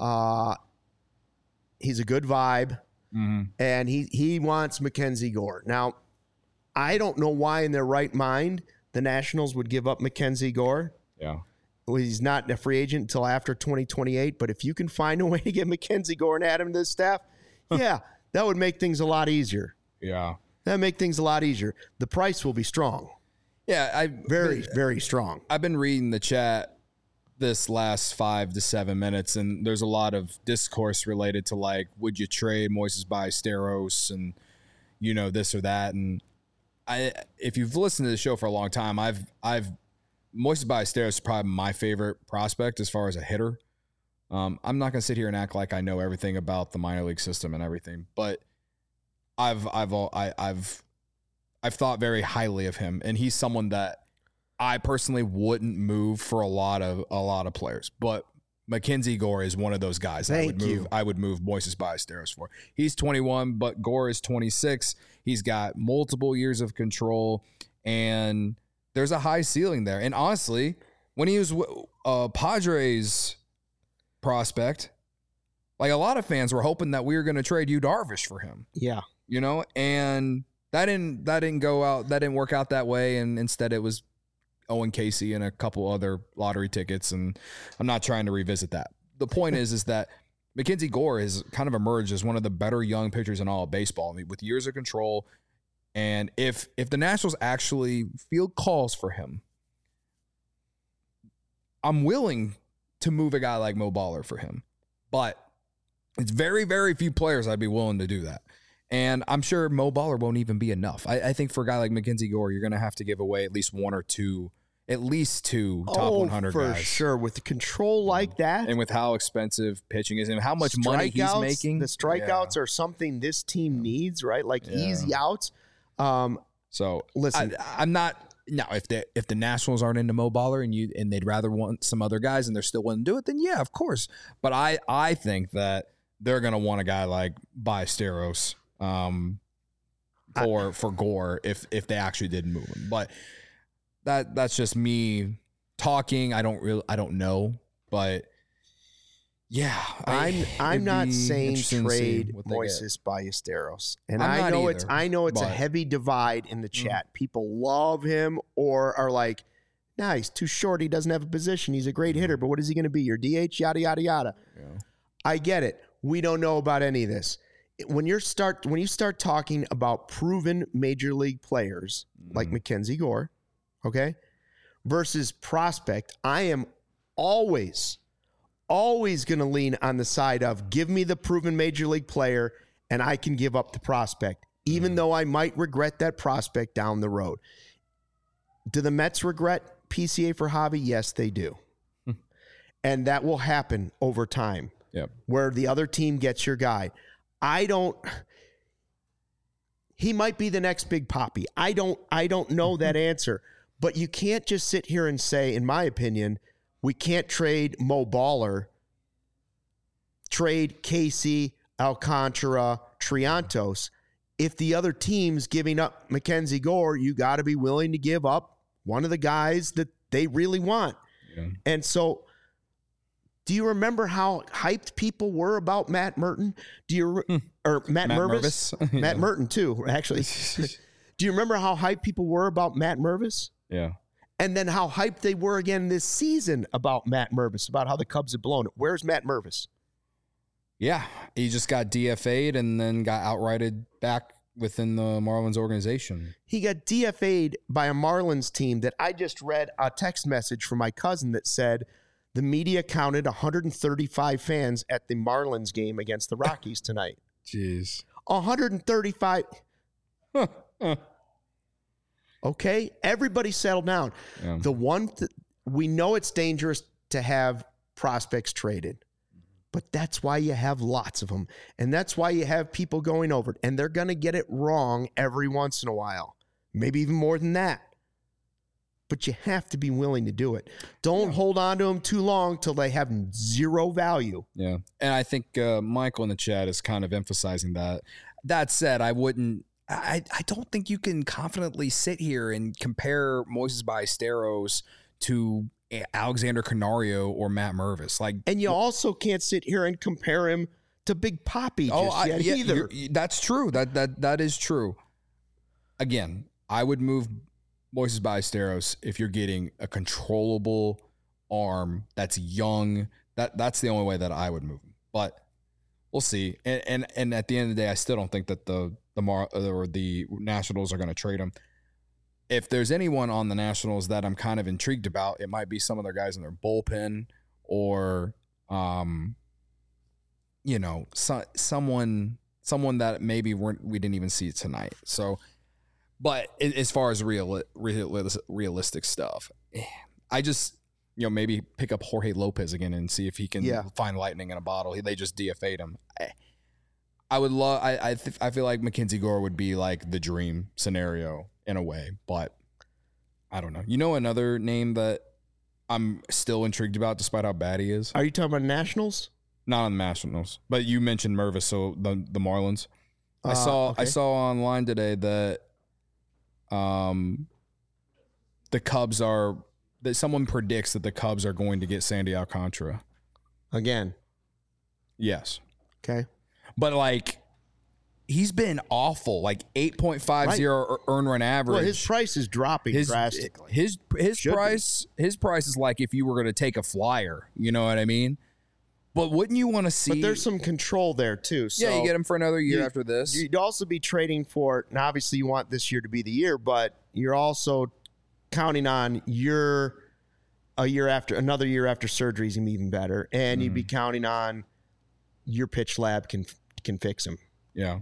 He's a good vibe, and he wants Mackenzie Gore. Now, I don't know why in their right mind the Nationals would give up Mackenzie Gore. Yeah. Well, he's not a free agent until after 2028, but if you can find a way to get Mackenzie Gore and add him to the staff, that would make things a lot easier. Yeah. That'd make things a lot easier. The price will be strong. Yeah. Very strong. I've been reading the chat this last 5 to 7 minutes, and there's a lot of discourse related to, like, would you trade Moises Ballesteros and, this or that. And if you've listened to the show for a long time, Moises Ballesteros is probably my favorite prospect as far as a hitter. I'm not going to sit here and act like I know everything about the minor league system and everything, but I've thought very highly of him, and he's someone that I personally wouldn't move for a lot of players, but Mackenzie Gore is one of those guys I would move Moises Ballesteros for. He's 21, but Gore is 26. He's got multiple years of control, and there's a high ceiling there. And honestly, when he was a Padres prospect, like, a lot of fans were hoping that we were going to trade Yu Darvish for him. Yeah. And that didn't go out. That didn't work out that way. And instead it was Owen Casey and a couple other lottery tickets. And I'm not trying to revisit that. The point is that Mackenzie Gore has kind of emerged as one of the better young pitchers in all of baseball. I mean, with years of control. And if the Nationals actually field calls for him, I'm willing to move a guy like Mo Baller for him. But it's very, very few players I'd be willing to do that. And I'm sure Mo Baller won't even be enough. I think for a guy like Mackenzie Gore, you're going to have to give away at least two top 100 for guys. For sure. With the control like that. And with how expensive pitching is and how much money he's making. The strikeouts are something this team needs, right? Like easy outs. So listen, I'm not now. If the Nationals aren't into Mo Baller and they'd rather want some other guys and they're still willing to do it, then yeah, of course. But I think that they're gonna want a guy like Ballesteros for Gore if they actually did move him. But that's just me talking. I don't know, but. Yeah, I'm not saying trade Moises Ballesteros, and I know it's a heavy divide in the chat. People love him or are like, "Nah, he's too short. He doesn't have a position. He's a great hitter, but what is he going to be? Your DH? Yada yada yada." Yeah. I get it. We don't know about any of this. When you start talking about proven major league players like Mackenzie Gore, okay, versus prospect, I am always going to lean on the side of give me the proven major league player and I can give up the prospect, even though I might regret that prospect down the road. Do the Mets regret PCA for Javi? Yes, they do. And that will happen over time. Yep. Where the other team gets your guy. He might be the next big Poppy. I don't know that answer. But you can't just sit here and say, in my opinion, we can't trade Mo Baller, trade Casey, Alcantara, Triantos, if the other team's giving up Mackenzie Gore, you got to be willing to give up one of the guys that they really want. Yeah. And so, do you remember how hyped people were about Matt Merton? Or Matt Mervis? Matt Merton too, actually. Do you remember how hyped people were about Matt Mervis? Yeah. And then how hyped they were again this season about Matt Mervis, about how the Cubs had blown it. Where's Matt Mervis? Yeah, he just got DFA'd and then got outrighted back within the Marlins organization. He got DFA'd by a Marlins team that I just read a text message from my cousin that said the media counted 135 fans at the Marlins game against the Rockies tonight. Jeez. 135. Okay, everybody settle down. Yeah. The one we know it's dangerous to have prospects traded, but that's why you have lots of them, and that's why you have people going over it, and they're going to get it wrong every once in a while, maybe even more than that. But you have to be willing to do it. Don't hold on to them too long till they have zero value. Yeah, and I think Michael in the chat is kind of emphasizing that. That said, I don't think you can confidently sit here and compare Moises Ballesteros to Alexander Canario or Matt Mervis. And you also can't sit here and compare him to Big Papi either. That's true. That is true. Again, I would move Moises Ballesteros if you're getting a controllable arm that's young. That's the only way that I would move him. But we'll see. And at the end of the day, I still don't think that the Nationals are going to trade him. If there's anyone on the Nationals that I'm kind of intrigued about, it might be some of their guys in their bullpen or, someone that maybe we didn't even see tonight. So, but as far as realistic stuff, I just, maybe pick up Jorge Lopez again and see if he can find lightning in a bottle. They just DFA'd him. I would love. I feel like Mackenzie Gore would be like the dream scenario in a way, but I don't know. Another name that I'm still intrigued about, despite how bad he is. Are you talking about Nationals? Not on the Nationals, but you mentioned Mervis, so the Marlins. I saw online today that the Cubs are that someone predicts that the Cubs are going to get Sandy Alcantara again. Yes. Okay. But he's been awful, 8.50 earned run average. Well, his price is dropping drastically. His price is like if you were going to take a flyer, you know what I mean? But wouldn't you want to see? But there's some control there too. So you get him for another year after this. You'd also be trading for. Now, obviously, you want this year to be the year, but you're also counting on another year after surgery is gonna be even better, and you'd be counting on your pitch lab can fix him. Yeah.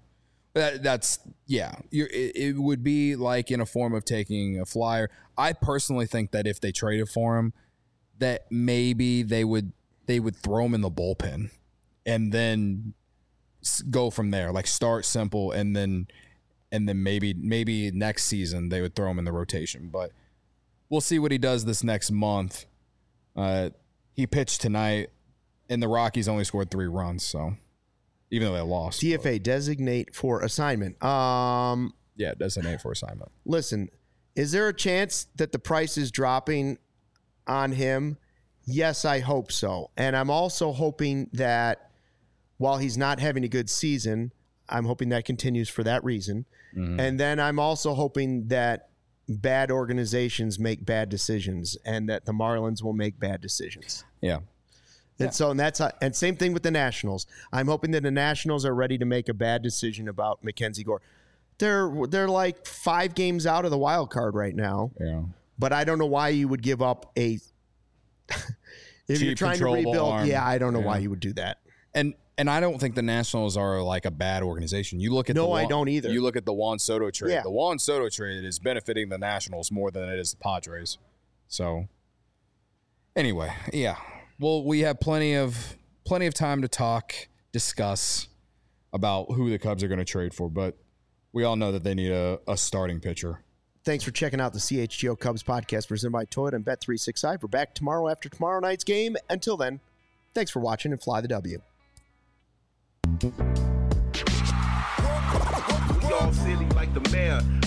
It would be like in a form of taking a flyer. I personally think that if they traded for him, that maybe they would throw him in the bullpen and then go from there. Start simple and then maybe next season they would throw him in the rotation. But we'll see what he does this next month. He pitched tonight, and the Rockies only scored 3 runs, so. Even though they lost. DFA, designate for assignment. Designate for assignment. Listen, is there a chance that the price is dropping on him? Yes, I hope so. And I'm also hoping that while he's not having a good season, I'm hoping that continues for that reason. Mm-hmm. And then I'm also hoping that bad organizations make bad decisions and that the Marlins will make bad decisions. Yeah. And so, and same thing with the Nationals. I'm hoping that the Nationals are ready to make a bad decision about Mackenzie Gore. They're 5 games out of the wild card right now. Yeah. But I don't know why you would give up if you're trying to rebuild. Arm. Yeah, I don't know why you would do that. And I don't think the Nationals are a bad organization. You look at I don't either. You look at the Juan Soto trade. Yeah. The Juan Soto trade is benefiting the Nationals more than it is the Padres. So anyway, yeah. Well, we have plenty of time to discuss about who the Cubs are going to trade for, but we all know that they need a starting pitcher. Thanks for checking out the CHGO Cubs podcast presented by Toyota and Bet365. We're back tomorrow after tomorrow night's game. Until then, thanks for watching and fly the W. all silly like the mayor.